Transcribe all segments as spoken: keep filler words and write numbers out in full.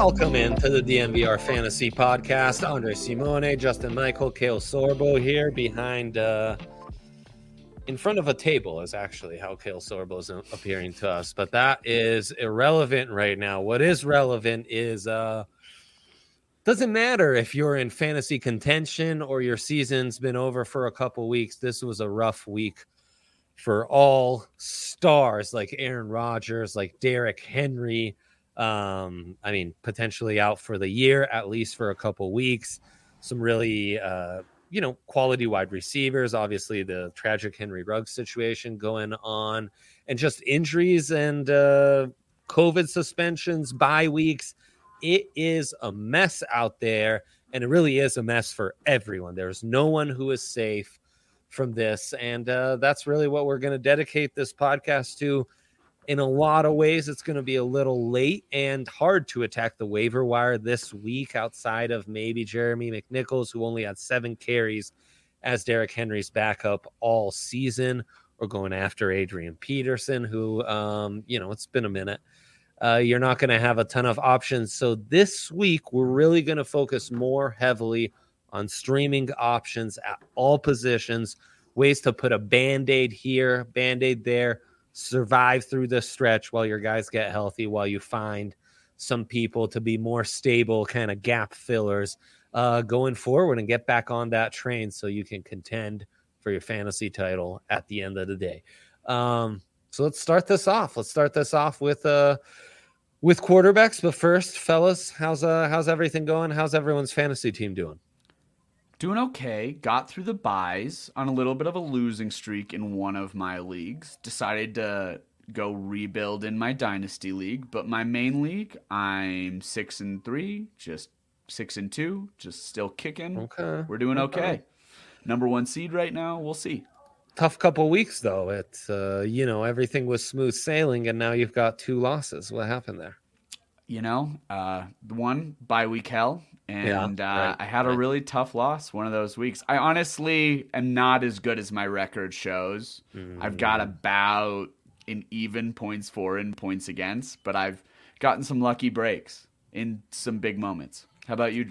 Welcome into the D N V R Fantasy Podcast. Andre Simone, Justin Michael, Kale Sorbo here behind, uh, in front of a table is actually how Kale Sorbo is appearing to us. But that is irrelevant right now. What is relevant is, uh, doesn't matter if you're in fantasy contention or your season's been over for a couple weeks. This was a rough week for all stars like Aaron Rodgers, like Derrick Henry. Um, I mean, potentially out for the year, at least for a couple weeks. Some really, uh, you know, quality wide receivers. Obviously, the tragic Henry Ruggs situation going on, and just injuries and uh, COVID suspensions, bye weeks. It is a mess out there, and it really is a mess for everyone. There's no one who is safe from this, and uh, that's really what we're going to dedicate this podcast to. In a lot of ways, it's going to be a little late and hard to attack the waiver wire this week outside of maybe Jeremy McNichols, who only had seven carries as Derrick Henry's backup all season, or going after Adrian Peterson, who, um, you know, it's been a minute. Uh, you're not going to have a ton of options. So this week, we're really going to focus more heavily on streaming options at all positions, ways to put a Band-Aid here, Band-Aid there, survive through this stretch while your guys get healthy, while you find some people to be more stable kind of gap fillers uh, going forward and get back on that train so you can contend for your fantasy title at the end of the day. Um, so let's start this off. Let's start this off with uh, with quarterbacks. But first, fellas, how's uh, how's everything going? How's everyone's fantasy team doing? Doing okay. Got through the buys on a little bit of a losing streak in one of my leagues. Decided to go rebuild in my dynasty league, but my main league, I'm six and three, just six and two, just still kicking. Okay, we're doing okay. okay. Number one seed right now. We'll see. Tough couple weeks though. It's uh, you know, everything was smooth sailing, and now you've got two losses. What happened there? You know, uh, the one bye week hell. And yeah, uh, right, I had right. a really tough loss one of those weeks. I honestly am not as good as my record shows. Mm. I've got about an even points for and points against, but I've gotten some lucky breaks in some big moments. How about you?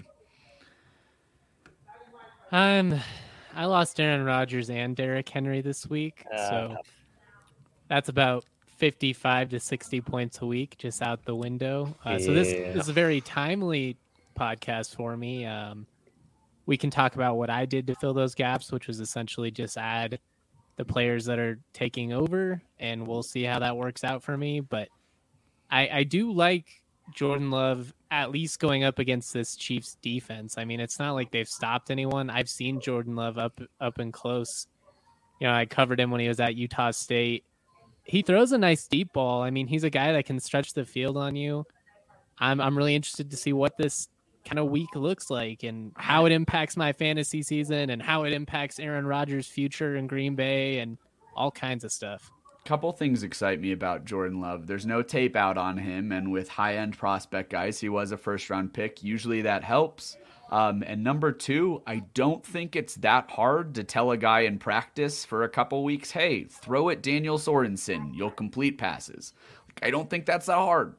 Um, I lost Aaron Rodgers and Derrick Henry this week, uh, so that's about fifty-five to sixty points a week just out the window. Uh, yeah. So this, this is a very timely podcast for me. Um, we can talk about what I did to fill those gaps, which was essentially just add the players that are taking over, and we'll see how that works out for me. But I, I do like Jordan Love at least going up against this Chiefs defense. I mean, it's not like they've stopped anyone. I've seen Jordan Love up up and close. You know, I covered him when he was at Utah State. He throws a nice deep ball. I mean, he's a guy that can stretch the field on you. I'm I'm really interested to see what this kind of week looks like and how it impacts my fantasy season and how it impacts Aaron Rodgers' future in Green Bay and all kinds of stuff. Couple things excite me about Jordan Love. There's no tape out on him, and with high-end prospect guys, he was a first-round pick. Usually that helps. Um, and number two, I don't think it's that hard to tell a guy in practice for a couple weeks, hey, throw it Daniel Sorensen. You'll complete passes. Like, I don't think that's that hard.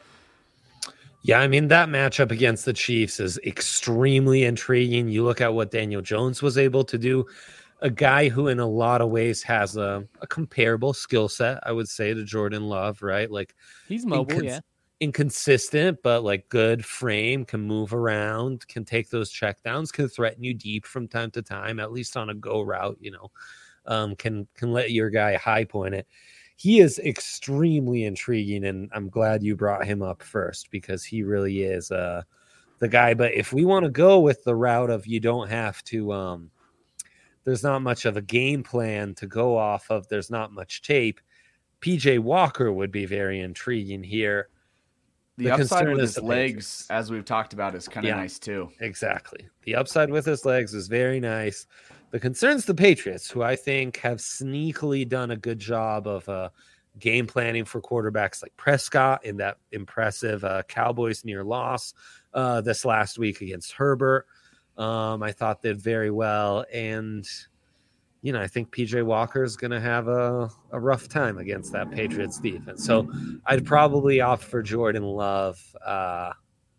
Yeah, I mean, that matchup against the Chiefs is extremely intriguing. You look at what Daniel Jones was able to do, a guy who in a lot of ways has a, a comparable skill set, I would say, to Jordan Love, right? Like he's mobile, incons- yeah. Inconsistent, but like good frame, can move around, can take those checkdowns, can threaten you deep from time to time, at least on a go route, you know, um, can can let your guy high point it. He is extremely intriguing, and I'm glad you brought him up first because he really is uh, the guy. But if we want to go with the route of you don't have to, um, there's not much of a game plan to go off of, there's not much tape, P J Walker would be very intriguing here. The, the upside with his legs, Patriots. As we've talked about, is kind of yeah, nice too. Exactly. The upside with his legs is very nice. The concern's the Patriots, who I think have sneakily done a good job of uh, game planning for quarterbacks like Prescott in that impressive uh, Cowboys near loss uh, this last week against Herbert. Um, I thought did very well. And, you know, I think P J Walker is going to have a, a rough time against that Patriots defense. So I'd probably opt for Jordan Love uh,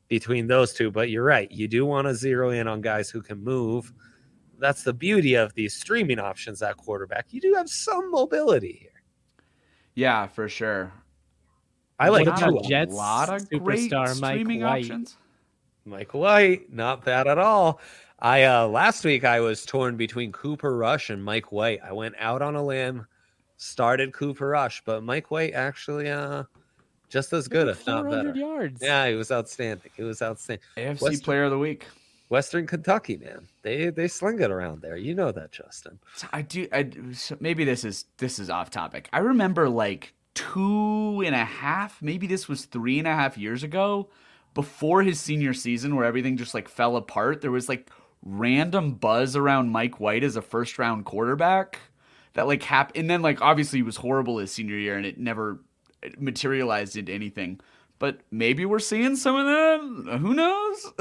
between those two. But you're right. You do want to zero in on guys who can move. That's the beauty of these streaming options at quarterback. You do have some mobility here. Yeah, for sure. I like Tua. a lot of great streaming options. Mike White, not bad at all. I uh, last week I was torn between Cooper Rush and Mike White. I went out on a limb, started Cooper Rush, but Mike White actually uh, just as good, if not better. Yards. Yeah, he was outstanding. He was outstanding. A F C Western, Player of the Week. Western Kentucky, man. They they sling it around there. You know that, Justin. I do. I, maybe this is this is off topic. I remember like two and a half, maybe this was three and a half years ago, before his senior season, where everything just like fell apart. There was like random buzz around Mike White as a first round quarterback that like happened, and then like obviously he was horrible his senior year and it never materialized into anything. But maybe we're seeing some of that. Who knows?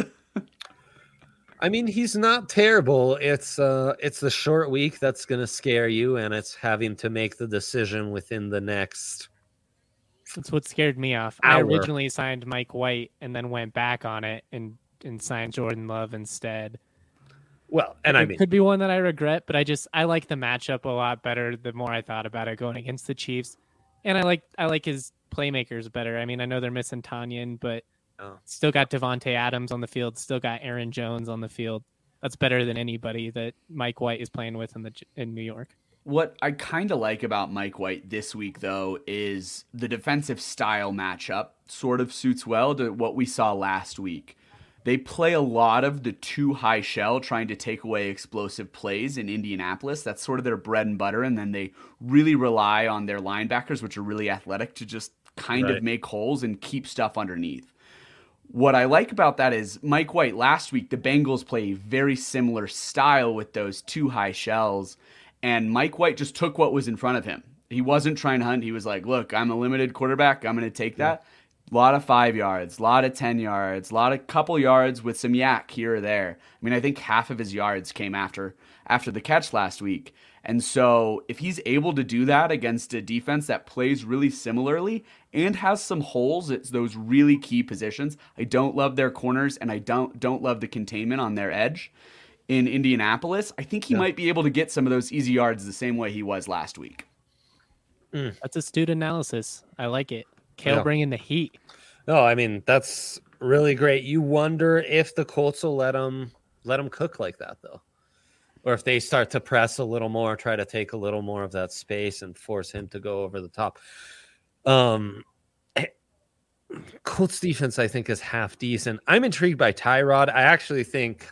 I mean, he's not terrible. It's uh it's the short week that's gonna scare you, and it's having to make the decision within the next. That's what scared me off. Hour. I originally signed Mike White and then went back on it and and signed Jordan Love instead. Well, and it I mean, could be one that I regret, but I just I like the matchup a lot better the more I thought about it going against the Chiefs, and I like I like his playmakers better. I mean, I know they're missing Tanyan, but oh. still got Devontae Adams on the field, still got Aaron Jones on the field. That's better than anybody that Mike White is playing with in the in New York. What I kind of like about Mike White this week, though, is the defensive style matchup sort of suits well to what we saw last week. They play a lot of the two high shell, trying to take away explosive plays in Indianapolis. That's sort of their bread and butter. And then they really rely on their linebackers, which are really athletic, to just kind right. of make holes and keep stuff underneath. What I like about that is Mike White last week, the Bengals play a very similar style with those two high shells. And Mike White just took what was in front of him. He wasn't trying to hunt. He was like, look, I'm a limited quarterback. I'm going to take that. Yeah. A lot of five yards, a lot of ten yards, a lot of couple yards with some yak here or there. I mean, I think half of his yards came after after the catch last week. And so if he's able to do that against a defense that plays really similarly and has some holes, it's those really key positions. I don't love their corners, and I don't don't love the containment on their edge in Indianapolis. I think he yeah. might be able to get some of those easy yards the same way he was last week. Mm. That's astute analysis. I like it. Kale yeah. bringing the heat. No, I mean, that's really great. You wonder if the Colts will let them let them cook like that, though, or if they start to press a little more, try to take a little more of that space and force him to go over the top. Um, Colts defense, I think, is half decent. I'm intrigued by Tyrod. I actually think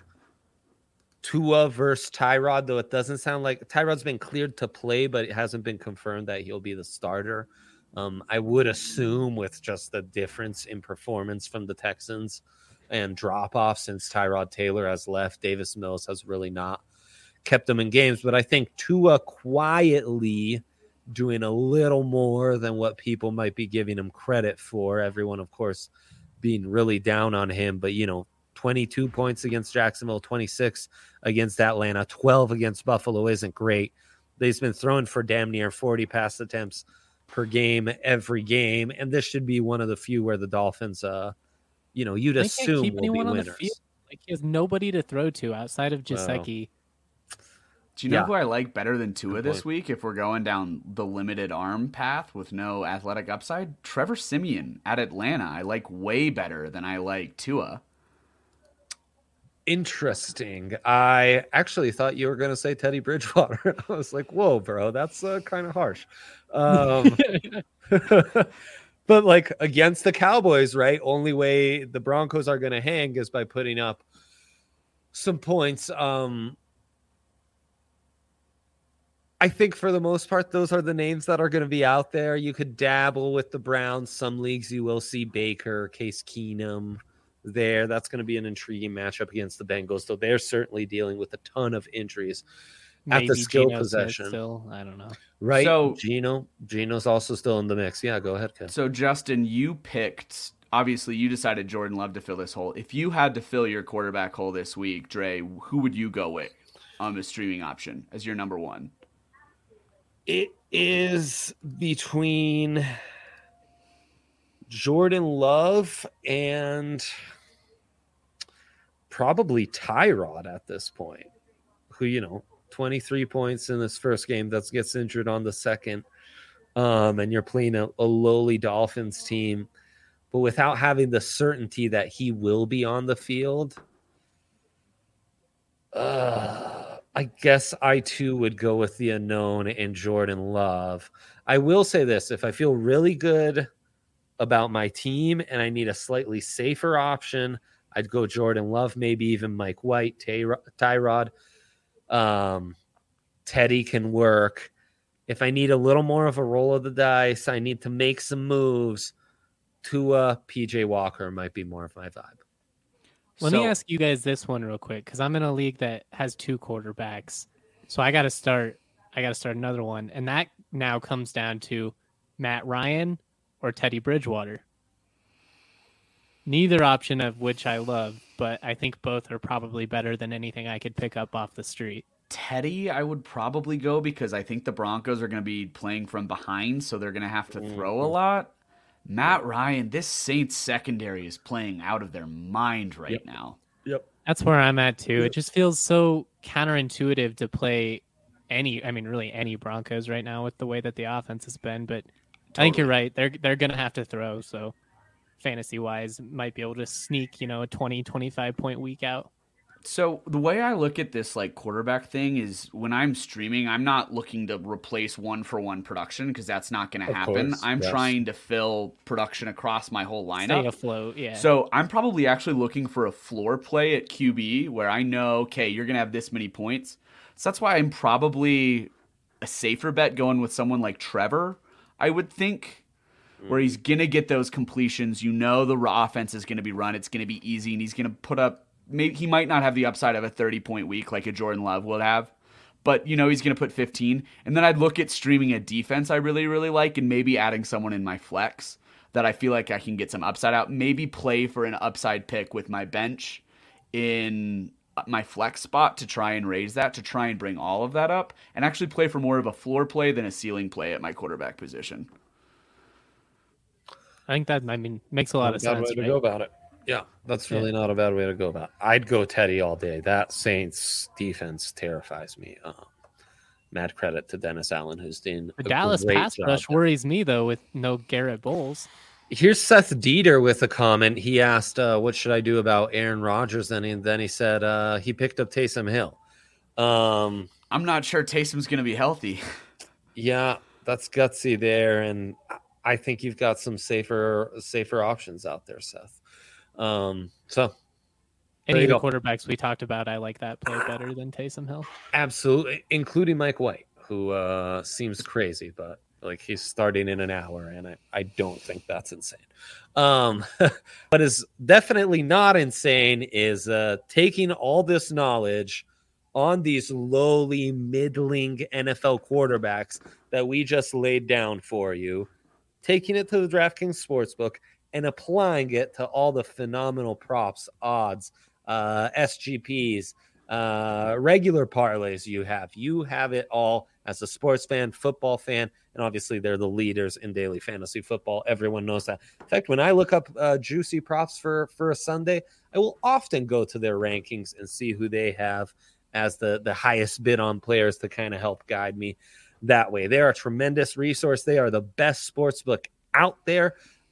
Tua versus Tyrod, though it doesn't sound like Tyrod's been cleared to play, but it hasn't been confirmed that he'll be the starter. Um, I would assume with just the difference in performance from the Texans and drop-off since Tyrod Taylor has left, Davis Mills has really not kept them in games. But I think Tua quietly doing a little more than what people might be giving him credit for. Everyone, of course, being really down on him. But, you know, twenty-two points against Jacksonville, twenty-six against Atlanta, twelve against Buffalo isn't great. They've been throwing for damn near forty pass attempts per game every game, and this should be one of the few where the Dolphins, uh, you know, you'd they assume keep will be winners. The field. Like he has nobody to throw to outside of Gesicki. Wow. Do you know yeah. who I like better than Tua this week? If we're going down the limited arm path with no athletic upside, Trevor Siemian at Atlanta. I like way better than I like Tua. Interesting. I actually thought you were going to say Teddy Bridgewater. I was like, whoa, bro, that's uh, kind of harsh. Um, but like against the Cowboys, right? Only way the Broncos are going to hang is by putting up some points. Um, I think for the most part, those are the names that are going to be out there. You could dabble with the Browns. Some leagues you will see Baker, Case Keenum there. That's going to be an intriguing matchup against the Bengals, though they're certainly dealing with a ton of injuries at Maybe the skill Geno possession. Still, I don't know. Right. So Geno, Geno's also still in the mix. Yeah, go ahead, Ken. So Justin, you picked, obviously you decided Jordan Love to fill this hole. If you had to fill your quarterback hole this week, Dre, who would you go with on the streaming option as your number one? It is between Jordan Love and probably Tyrod at this point, who, you know, twenty-three points in this first game that gets injured on the second. Um, and you're playing a, a lowly Dolphins team, but without having the certainty that he will be on the field, uh, I guess I too would go with the unknown and Jordan Love. I will say this, if I feel really good about my team and I need a slightly safer option, I'd go Jordan Love, maybe even Mike White, Ty- Tyrod. Um, Teddy can work. If I need a little more of a roll of the dice, I need to make some moves. Tua, P J Walker might be more of my vibe. Let so, me ask you guys this one real quick, because I'm in a league that has two quarterbacks. So I got to start. I got to start another one, and that now comes down to Matt Ryan or Teddy Bridgewater. Neither option of which I love, but I think both are probably better than anything I could pick up off the street. Teddy, I would probably go because I think the Broncos are going to be playing from behind, so they're going to have to throw a lot. Matt Ryan, this Saints secondary is playing out of their mind right yep. now. Yep. That's where I'm at too. It just feels so counterintuitive to play any, I mean, really any Broncos right now with the way that the offense has been. But totally. I think you're right. They're they're going to have to throw. So fantasy wise, might be able to sneak, you know, a twenty, twenty-five point week out. So the way I look at this like quarterback thing is when I'm streaming, I'm not looking to replace one for one production because that's not going to happen. Course, I'm yes. trying to fill production across my whole lineup. Stay afloat, yeah. So I'm probably actually looking for a floor play at Q B where I know, okay, you're going to have this many points. So that's why I'm probably a safer bet going with someone like Trevor, I would think, mm. where he's going to get those completions. You know the offense is going to be run. It's going to be easy, and he's going to put up maybe he might not have the upside of a thirty-point week like a Jordan Love would have, but, you know, he's going to put fifteen. And then I'd look at streaming a defense I really, really like and maybe adding someone in my flex that I feel like I can get some upside out. Maybe play for an upside pick with my bench in my flex spot to try and raise that, to try and bring all of that up, and actually play for more of a floor play than a ceiling play at my quarterback position. I think that, I mean, makes a lot of sense. Way to right? go about it. Yeah, that's really yeah. not a bad way to go about it. I'd go Teddy all day. That Saints defense terrifies me. Uh, mad credit to Dennis Allen, who's doing the Dallas pass rush worries me, though, with no Garrett Bowles. Here's Seth Dieter with a comment. He asked, uh, what should I do about Aaron Rodgers? And he, then he said uh, he picked up Taysom Hill. Um, I'm not sure Taysom's going to be healthy. Yeah, that's gutsy there. And I think you've got some safer safer options out there, Seth. Um, so any of the quarterbacks we talked about, I like that play better than Taysom Hill. Absolutely, including Mike White, who uh, seems crazy, but like he's starting in an hour, and I, I don't think that's insane. Um, what is definitely not insane is uh, taking all this knowledge on these lowly, middling N F L quarterbacks that we just laid down for you, taking it to the DraftKings Sportsbook, and applying it to all the phenomenal props, odds, uh, S G Ps, uh, regular parlays you have. You have it all as a sports fan, football fan, and obviously they're the leaders in daily fantasy football. Everyone knows that. In fact, when I look up uh, juicy props for, for a Sunday, I will often go to their rankings and see who they have as the, the highest bid on players to kind of help guide me that way. They are a tremendous resource. They are the best sportsbook out there.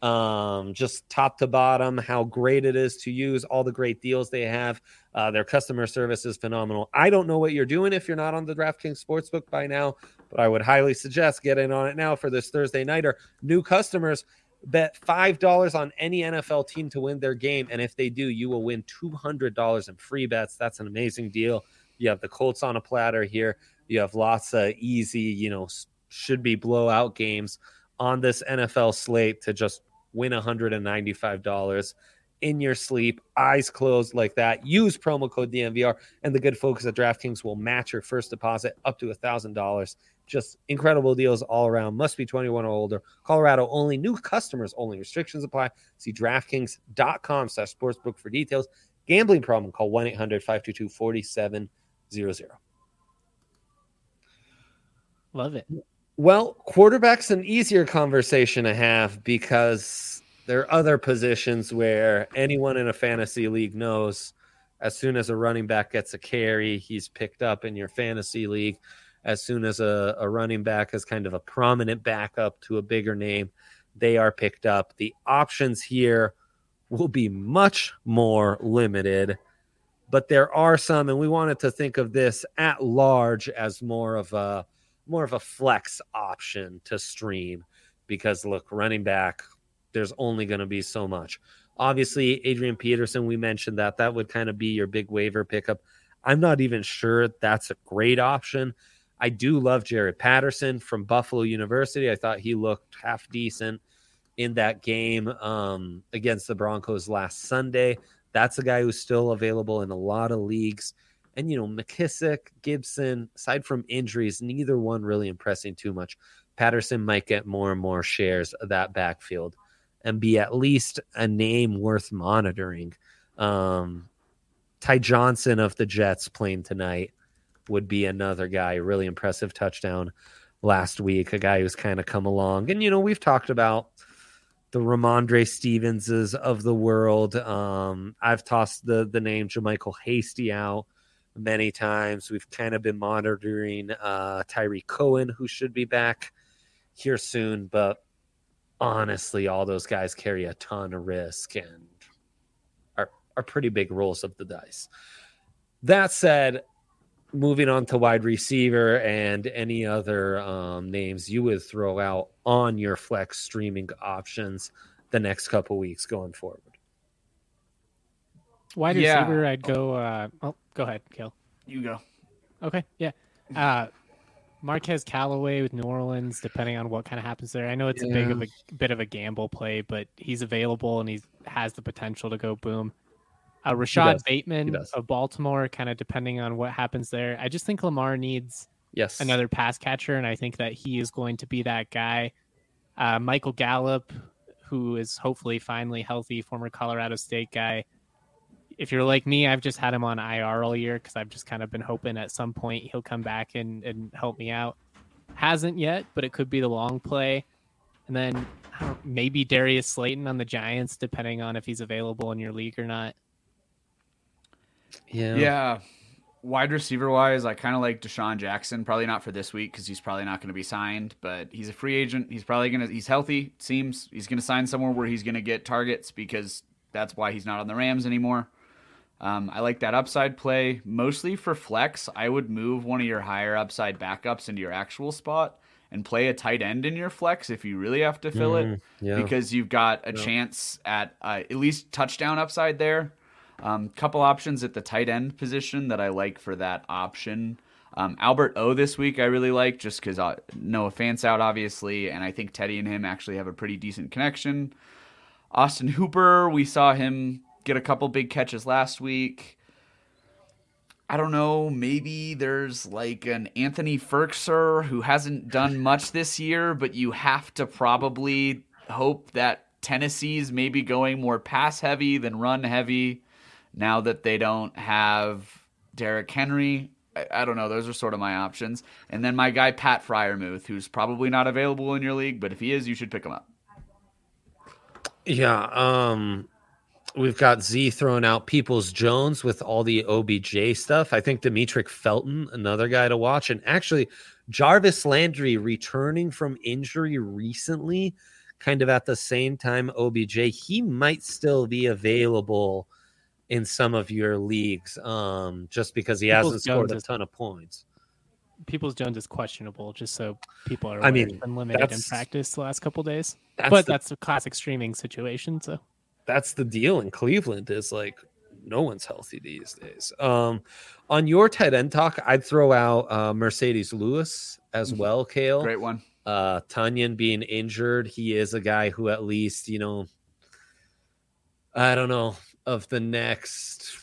Um, just top to bottom, how great it is to use, all the great deals they have. Uh, their customer service is phenomenal. I don't know what you're doing if you're not on the DraftKings Sportsbook by now, but I would highly suggest getting on it now for this Thursday nighter. New customers bet five dollars on any N F L team to win their game, and if they do, you will win two hundred dollars in free bets. That's an amazing deal. You have the Colts on a platter here. You have lots of easy, you know, should be blowout games on this N F L slate to just win one hundred ninety-five dollars in your sleep, eyes closed like that. Use promo code D N V R, and the good folks at DraftKings will match your first deposit up to one thousand dollars. Just incredible deals all around. Must be twenty-one or older. Colorado only. New customers only. Restrictions apply. See DraftKings.com slash sportsbook for details. Gambling problem, call one eight hundred five two two four seven zero zero. Love it. Well, quarterback's an easier conversation to have because there are other positions where anyone in a fantasy league knows As soon as a running back gets a carry, he's picked up in your fantasy league. As soon as a, a running back is kind of a prominent backup to a bigger name, they are picked up. The options here will be much more limited, but there are some, and we wanted to think of this at large as more of a more of a flex option to stream, because look, running back, there's only going to be so much. Obviously, Adrian Peterson, we mentioned that that would kind of be your big waiver pickup. I'm not even sure that's a great option. I do love Jared Patterson from Buffalo University. I thought he looked half decent in that game um, against the Broncos last Sunday. That's a guy who's still available in a lot of leagues. And, you know, McKissick, Gibson, aside from injuries, neither one really impressing too much. Patterson might get more and more shares of that backfield and be at least a name worth monitoring. Um, Ty Johnson of the Jets playing tonight would be another guy. Really impressive touchdown last week. A guy who's kind of come along. And, you know, we've talked about the Ramondre Stevenses of the world. Um, I've tossed the, the name JaMychal Hasty out many times. We've kind of been monitoring uh, Tyree Cohen, who should be back here soon. But honestly, all those guys carry a ton of risk and are, are pretty big rolls of the dice. That said, moving on to wide receiver and any other um, names you would throw out on your flex streaming options the next couple weeks going forward. Wide Yeah. receiver, I'd go. Uh, oh, go ahead, Kale. You go. Okay, yeah. Uh, Marquez Callaway with New Orleans, depending on what kind of happens there. I know it's Yeah. a big of a bit of a gamble play, but he's available and he has the potential to go boom. Uh, Rashad does. Bateman does. of Baltimore, kind of depending on what happens there. I just think Lamar needs Yes. another pass catcher, and I think that he is going to be that guy. Uh, Michael Gallup, who is hopefully finally healthy, former Colorado State guy. If you're like me, I've just had him on I R all year because I've just kind of been hoping at some point he'll come back and, and help me out. Hasn't yet, but it could be the long play. And then I don't, maybe Darius Slayton on the Giants, depending on if he's available in your league or not. Yeah. Yeah. Wide receiver wise, I kind of like Deshaun Jackson. Probably not for this week because he's probably not going to be signed, but he's a free agent. He's probably going to, he's healthy, it seems. He's going to sign somewhere where he's going to get targets because that's why he's not on the Rams anymore. Um, I like that upside play. Mostly for flex, I would move one of your higher upside backups into your actual spot and play a tight end in your flex if you really have to fill Mm, it yeah. because you've got a Yeah. chance at uh, at least touchdown upside there. Um, couple options at the tight end position that I like for that option. Um, Albert O this week I really like just because uh, Noah Fant's out obviously, and I think Teddy and him actually have a pretty decent connection. Austin Hooper, we saw him get a couple big catches last week. I don't know, maybe there's like an Anthony Ferkser who hasn't done much this year, but you have to probably hope that Tennessee's maybe going more pass heavy than run heavy now that they don't have Derrick Henry. I, I don't know. Those are sort of my options. And then my guy, Pat Freiermuth, who's probably not available in your league, but if he is, you should pick him up. Yeah. Um, we've got Z throwing out Peoples Jones with all the O B J stuff. I think Demetric Felton, another guy to watch. And actually, Jarvis Landry returning from injury recently, kind of at the same time O B J, he might still be available in some of your leagues um, just because he Peoples hasn't scored Jones a is- ton of points. Peoples Jones is questionable, just so people are I aware. mean, He's been limited in that's- practice the last couple days. That's but the, that's a classic streaming situation, so that's the deal in Cleveland is like no one's healthy these days. Um, on your tight end talk, I'd throw out uh, Mercedes Lewis as well, Kale. Great one. Uh, Tunyon being injured, he is a guy who at least, you know, I don't know, of the next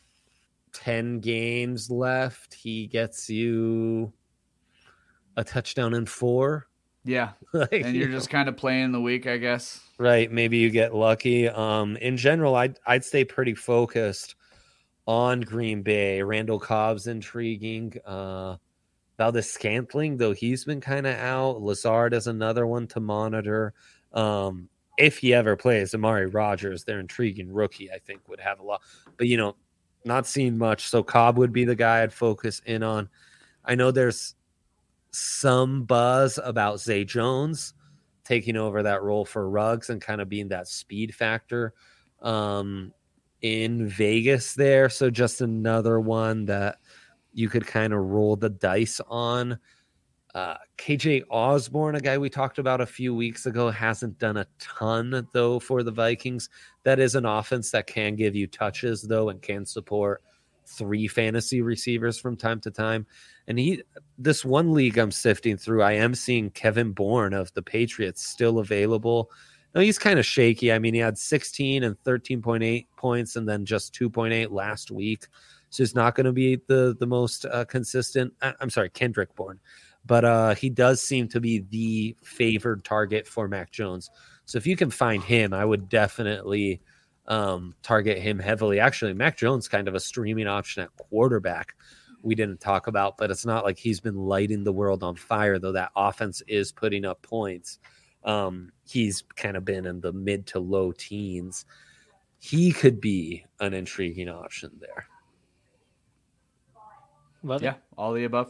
ten games left, he gets you a touchdown in four. Yeah. Like, And you're you just kind of playing the week, I guess. know, right. Maybe you get lucky. Um, in general, I'd, I'd stay pretty focused on Green Bay. Randall Cobb's intriguing. Uh, Valdez Scantling, though he's been kind of out. Lazard is another one to monitor. Um, if he ever plays, Amari Rogers, their intriguing rookie, I think would have a lot. But, you know, not seen much. So Cobb would be the guy I'd focus in on. I know there's some buzz about Zay Jones taking over that role for Ruggs and kind of being that speed factor um, in Vegas there. So just another one that you could kind of roll the dice on. Uh, K J Osborne, a guy we talked about a few weeks ago, hasn't done a ton, though, for the Vikings. That is an offense that can give you touches, though, and can support three fantasy receivers from time to time. And he, this one league I'm sifting through, I am seeing Kevin Bourne of the Patriots still available. Now, he's kind of shaky. I mean, he had sixteen and thirteen point eight points and then just two point eight last week. So he's not going to be the, the most uh, consistent. I'm sorry, Kendrick Bourne. But uh, he does seem to be the favored target for Mac Jones. So if you can find him, I would definitely um, target him heavily. Actually, Mac Jones kind of a streaming option at quarterback we didn't talk about, but it's not like he's been lighting the world on fire, though that offense is putting up points. Um, he's kind of been in the mid to low teens. He could be an intriguing option there. Love yeah, it. All the above.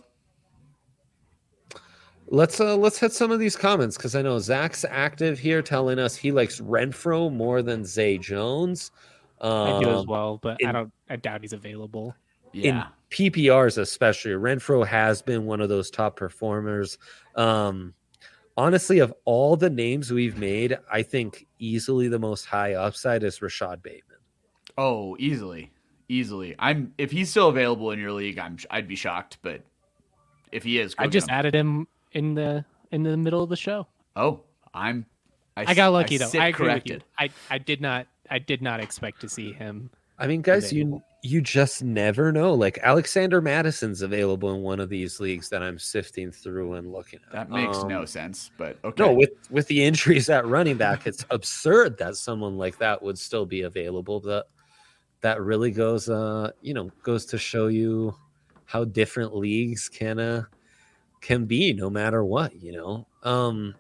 Let's uh, let's hit some of these comments because I know Zach's active here telling us he likes Renfrow more than Zay Jones. Um, I do as well, but in, I don't. I doubt he's available. Yeah. In P P Rs especially, Renfrow has been one of those top performers. Um, honestly, of all the names we've made, I think easily the most high upside is Rashad Bateman. Oh, easily, easily. I'm if he's still available in your league, I'm I'd be shocked, but if he is, I just him. added him in the in the middle of the show. Oh, I'm. I, I got lucky I though. I agree corrected. with you. I, I did not. I did not expect to see him. I mean, guys, available. you you just never know. Like Alexander Madison's available in one of these leagues that I'm sifting through and looking at. That makes um, no sense, but okay. No, with with the injuries at running back, it's absurd that someone like that would still be available. But that really goes, uh, you know, goes to show you how different leagues can uh. can be no matter what, you know. Um,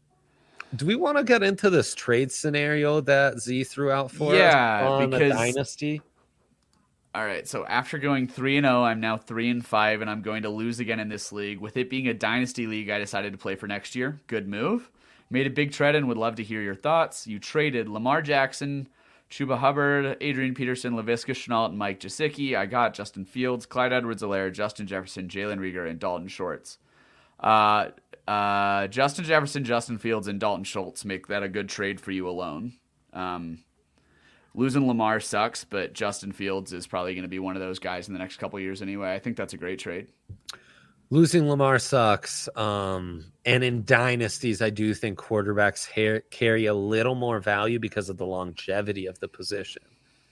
do we want to get into this trade scenario that Z threw out for yeah, us on because, a dynasty? All right, so after going three and oh, I'm now three and five, and I'm going to lose again in this league. With it being a dynasty league, I decided to play for next year. Good move. Made a big trade and would love to hear your thoughts. You traded Lamar Jackson, Chuba Hubbard, Adrian Peterson, Laviska Shenault, and Mike Gesicki. I got Justin Fields, Clyde Edwards-Helaire, Justin Jefferson, Jalen Reagor, and Dalton Schultz. Uh, uh, Justin Jefferson, Justin Fields, and Dalton Schultz make that a good trade for you alone. Um, losing Lamar sucks, but Justin Fields is probably going to be one of those guys in the next couple of years anyway. I think that's a great trade. Losing Lamar sucks. Um, and in dynasties, I do think quarterbacks ha- carry a little more value because of the longevity of the position.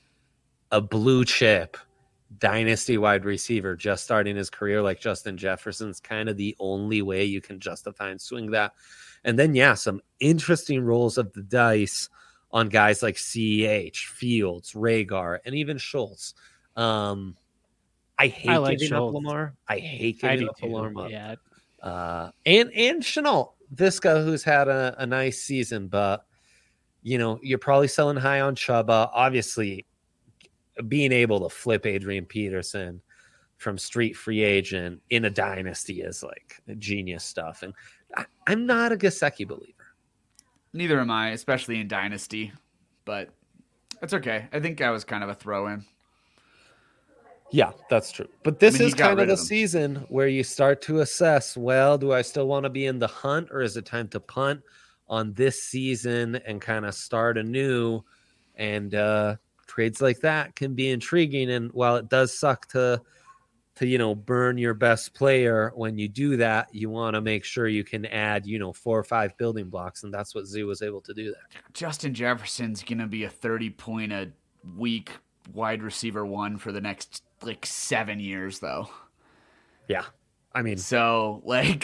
A blue chip dynasty wide receiver just starting his career like Justin Jefferson's kind of the only way you can justify and swing that. And then, yeah, some interesting rolls of the dice on guys like C H, Fields, Reagor, and even Schultz. Um, I hate I like giving Schultz. up Lamar. I hate giving I up Lamar. Yeah. Uh, and, and Shenault, Viska, who's had a, a nice season, but, you know, you're probably selling high on Chuba. Obviously, being able to flip Adrian Peterson from street free agent in a dynasty is like genius stuff. And I, I'm not a Gesicki believer. Neither am I, especially in dynasty, but it's okay. I think I was kind of a throw in. Yeah, that's true. But this I mean, is kind of the of season where you start to assess, well, do I still want to be in the hunt or is it time to punt on this season and kind of start anew? And, uh, trades like that can be intriguing, and while it does suck to to you know burn your best player when you do that, you want to make sure you can add you know four or five building blocks, and that's what Z was able to do there. Justin Jefferson's gonna be a thirty point a week wide receiver one for the next like seven years, though. Yeah, I mean, so like.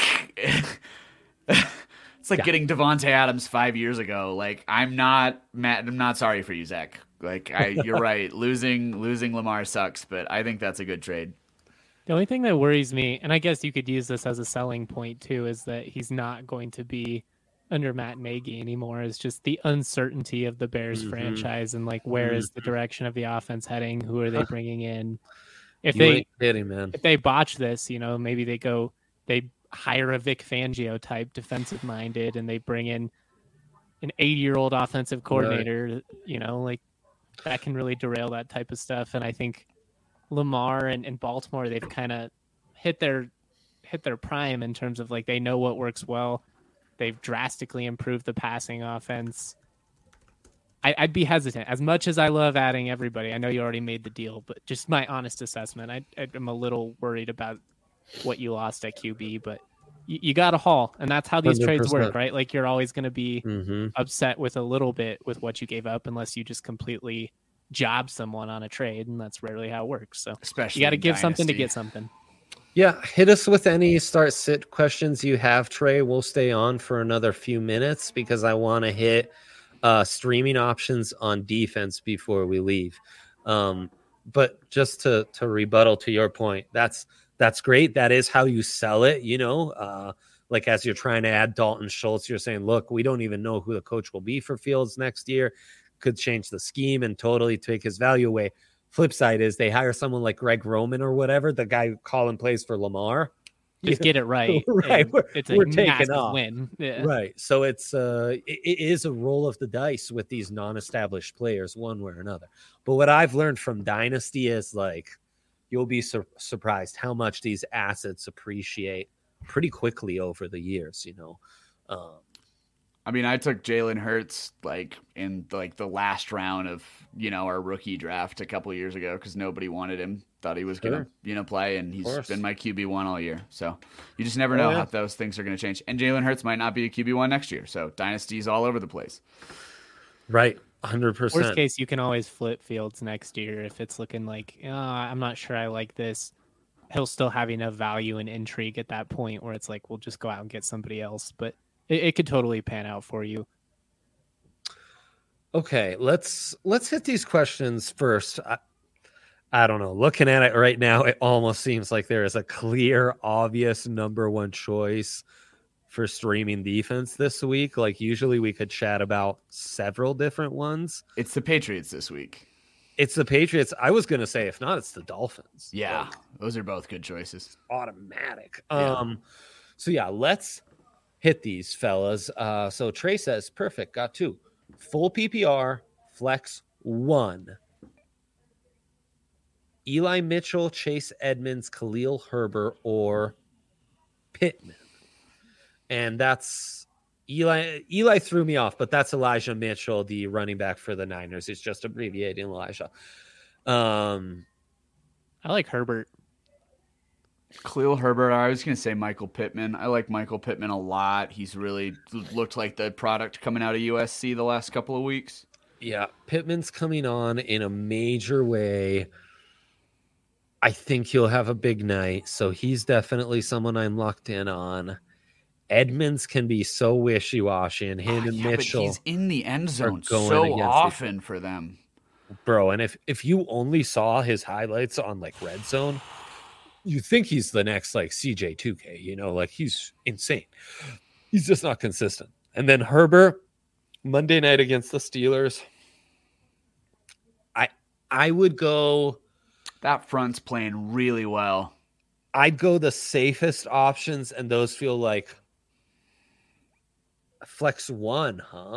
It's like yeah. getting Devontae Adams five years ago. Like I'm not mad. I'm not sorry for you, Zach. Like I, you're right. Losing losing Lamar sucks, but I think that's a good trade. The only thing that worries me, and I guess you could use this as a selling point too, is that he's not going to be under Matt Nagy anymore is just the uncertainty of the Bears mm-hmm. franchise and like where mm-hmm. is the direction of the offense heading? Who are they bringing in? If you they ain't kidding, man. If they botch this, you know, maybe they go they hire a Vic Fangio type defensive minded and they bring in an eighty year old offensive coordinator, right. you know, like that can really derail that type of stuff. And I think Lamar and, and Baltimore, they've kind of hit their hit their prime in terms of like they know what works well. They've drastically improved the passing offense. I, I'd be hesitant. As much as I love adding everybody, I know you already made the deal, but just my honest assessment, I, I'm a little worried about what you lost at Q B, but you, you got a haul, and that's how these one hundred percent trades work, right? Like you're always going to be mm-hmm. upset with a little bit with what you gave up unless you just completely job someone on a trade, and that's rarely how it works. So especially you got to give Dynasty. something to get something. Yeah, hit us with any start sit questions you have, Trey. We'll stay on for another few minutes because I want to hit uh, streaming options on defense before we leave. Um, but just to to rebuttal to your point, that's that's great. That is how you sell it, you know. Uh, like as you're trying to add Dalton Schultz, you're saying, look, we don't even know who the coach will be for Fields next year. Could change the scheme and totally take his value away. Flip side is they hire someone like Greg Roman or whatever, the guy calling plays for Lamar. Just get it right. right. We're, it's we're a taking off. Win. Yeah. Right. So it's uh, it, it is a roll of the dice with these non-established players one way or another. But what I've learned from Dynasty is like, you'll be sur- surprised how much these assets appreciate pretty quickly over the years, you know? Um, I mean, I took Jalen Hurts like in like the last round of, you know, our rookie draft a couple of years ago because nobody wanted him, thought he was sure. going to, you know, play, and he's been my Q B one all year. So you just never know oh, yeah. how those things are going to change. And Jalen Hurts might not be a Q B one next year. So Dynasty's all over the place. Right. one hundred percent. Worst case, you can always flip Fields next year if it's looking like, oh, I'm not sure I like this. He'll still have enough value and intrigue at that point where it's like, we'll just go out and get somebody else. But It, it could totally pan out for you. Okay, let's let's hit these questions first. I, I don't know. Looking at it right now, it almost seems like there is a clear, obvious number one choice for streaming defense this week. Like usually we could chat about several different ones. It's the Patriots this week. It's the Patriots. I was going to say, if not, it's the Dolphins. Yeah, like, those are both good choices. Automatic. Yeah. Um. So yeah, let's hit these fellas. Uh, so Trey says, perfect. Got two. Full P P R, flex one. Eli Mitchell, Chase Edmonds, Khalil Herbert, or Pittman. And that's Eli. Eli threw me off, but that's Elijah Mitchell, the running back for the Niners. It's just abbreviating Elijah. Um, I like Herbert. Khalil Herbert. I was going to say Michael Pittman. I like Michael Pittman a lot. He's really looked like the product coming out of U S C the last couple of weeks. Yeah, Pittman's coming on in a major way. I think he'll have a big night, so he's definitely someone I'm locked in on. Edmonds can be so wishy-washy, and him oh, and yeah, Mitchell but he's in the end zone so often for them. Bro, and if, if you only saw his highlights on, like, Red Zone, you think he's the next, like, C J two K, you know? Like, he's insane. He's just not consistent. And then Herbert, Monday night against the Steelers, I I would go... That front's playing really well. I'd go the safest options, and those feel like flex one, huh?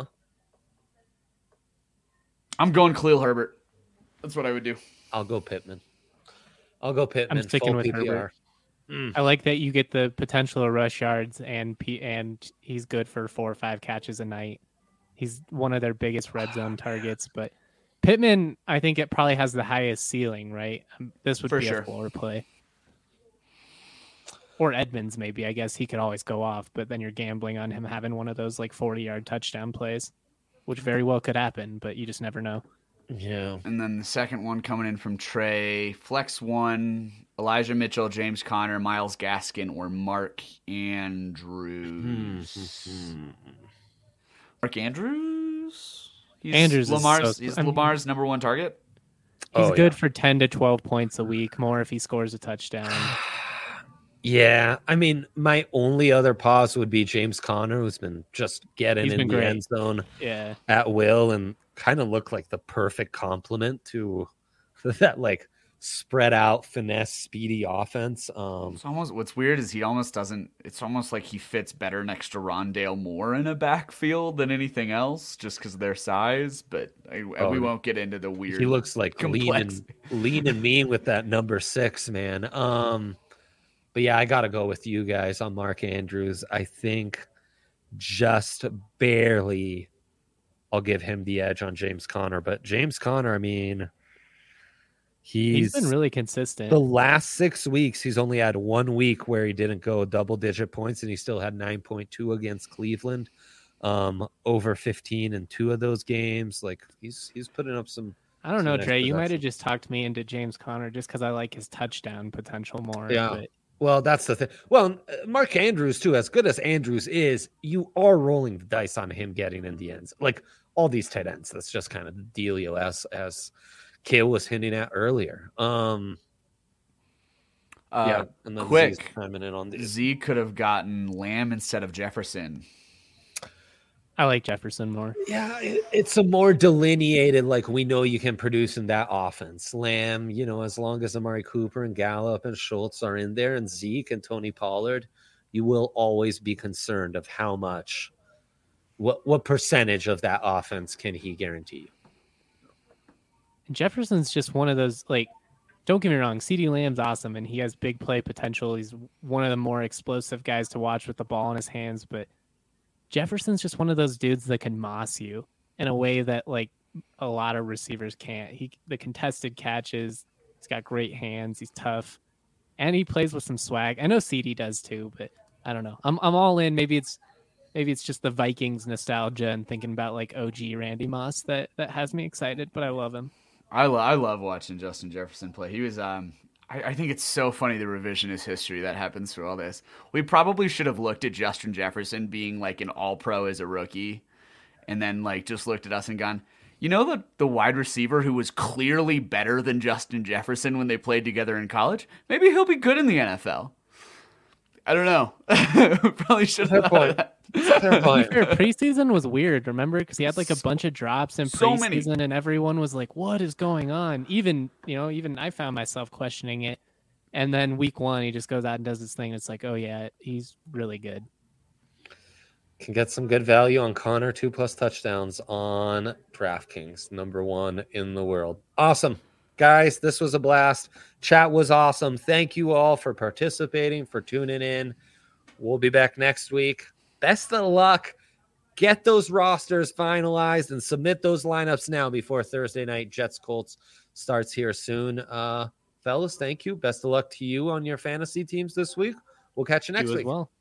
I'm going Khalil Herbert. That's what I would do. I'll go Pittman. I'll go Pittman. I'm sticking with P P R. Herbert. Mm. I like that you get the potential of rush yards, and P- and he's good for four or five catches a night. He's one of their biggest red zone targets, but Pittman, I think it probably has the highest ceiling, right? Um, this would for be sure. a floor play. Or Edmonds, maybe. I guess he could always go off, but then you're gambling on him having one of those like forty-yard touchdown plays, which very well could happen, but you just never know. Yeah. And then the second one coming in from Trey, flex one, Elijah Mitchell, James Conner, Myles Gaskin, or Mark Andrews. Mark Andrews? He's Andrews Lamar's, is so, he's I mean, Lamar's number one target. He's oh, good yeah. for ten to twelve points a week, more if he scores a touchdown. Yeah, I mean, my only other pause would be James Conner, who's been just getting He's in been the great. end zone Yeah. at will and kind of look like the perfect complement to that like spread out finesse speedy offense. Um It's almost what's weird is he almost doesn't. It's almost like he fits better next to Rondale Moore in a backfield than anything else, just because of their size. But I, Oh, we won't get into the weird. he looks like lean complex. and lean and mean with that number six, man. Um but yeah, I gotta go with you guys on Mark Andrews. I think just barely I'll give him the edge on James Conner. But James Conner, I mean, he's, he's been really consistent. The last six weeks, he's only had one week where he didn't go double digit points, and he still had nine point two against Cleveland, um, over fifteen in two of those games. Like he's he's putting up some. I don't some know, nice Trey. You might have production. just talked me into James Conner just because I like his touchdown potential more. Yeah. But Well, that's the thing. Well, Mark Andrews, too, as good as Andrews is, you are rolling the dice on him getting in the ends. Like all these tight ends, that's just kind of the dealio as as Kale was hinting at earlier. Um, Uh, yeah, and then quick, Z's chiming in on these. Z could have gotten Lamb instead of Jefferson. I like Jefferson more. Yeah, it, it's a more delineated, like we know you can produce in that offense. Lamb, you know, as long as Amari Cooper and Gallup and Schultz are in there, and Zeke and Tony Pollard, you will always be concerned of how much, what what percentage of that offense can he guarantee you? Jefferson's just one of those, like, don't get me wrong, CeeDee Lamb's awesome and he has big play potential. He's one of the more explosive guys to watch with the ball in his hands, but Jefferson's just one of those dudes that can moss you in a way that like a lot of receivers can't. He the contested catches, he's got great hands, he's tough, and he plays with some swag. I know C D does too, but I don't know. I'm I'm all in. Maybe it's maybe it's just the Vikings nostalgia and thinking about like O G Randy Moss that that has me excited, but I love him. I, lo- I love watching Justin Jefferson play. He was um I, I think it's so funny the revisionist history that happens through all this. We probably should have looked at Justin Jefferson being like an all pro as a rookie and then like just looked at us and gone, you know the the wide receiver who was clearly better than Justin Jefferson when they played together in college? Maybe he'll be good in the N F L. I don't know. Probably should have Fair point. that. Fair point. Fair, preseason was weird, remember? Because he had like a bunch of drops in So preseason, many. and everyone was like, "What is going on?" Even you know, even I found myself questioning it. And then week one, he just goes out and does his thing. It's like, oh yeah, he's really good. Can get some good value on Connor, two plus touchdowns on DraftKings, number one in the world. Awesome. Guys, this was a blast. Chat was awesome. Thank you all for participating, for tuning in. We'll be back next week. Best of luck. Get those rosters finalized and submit those lineups now before Thursday night Jets Colts starts here soon. Uh, fellas, thank you. Best of luck to you on your fantasy teams this week. We'll catch you next You as week. well.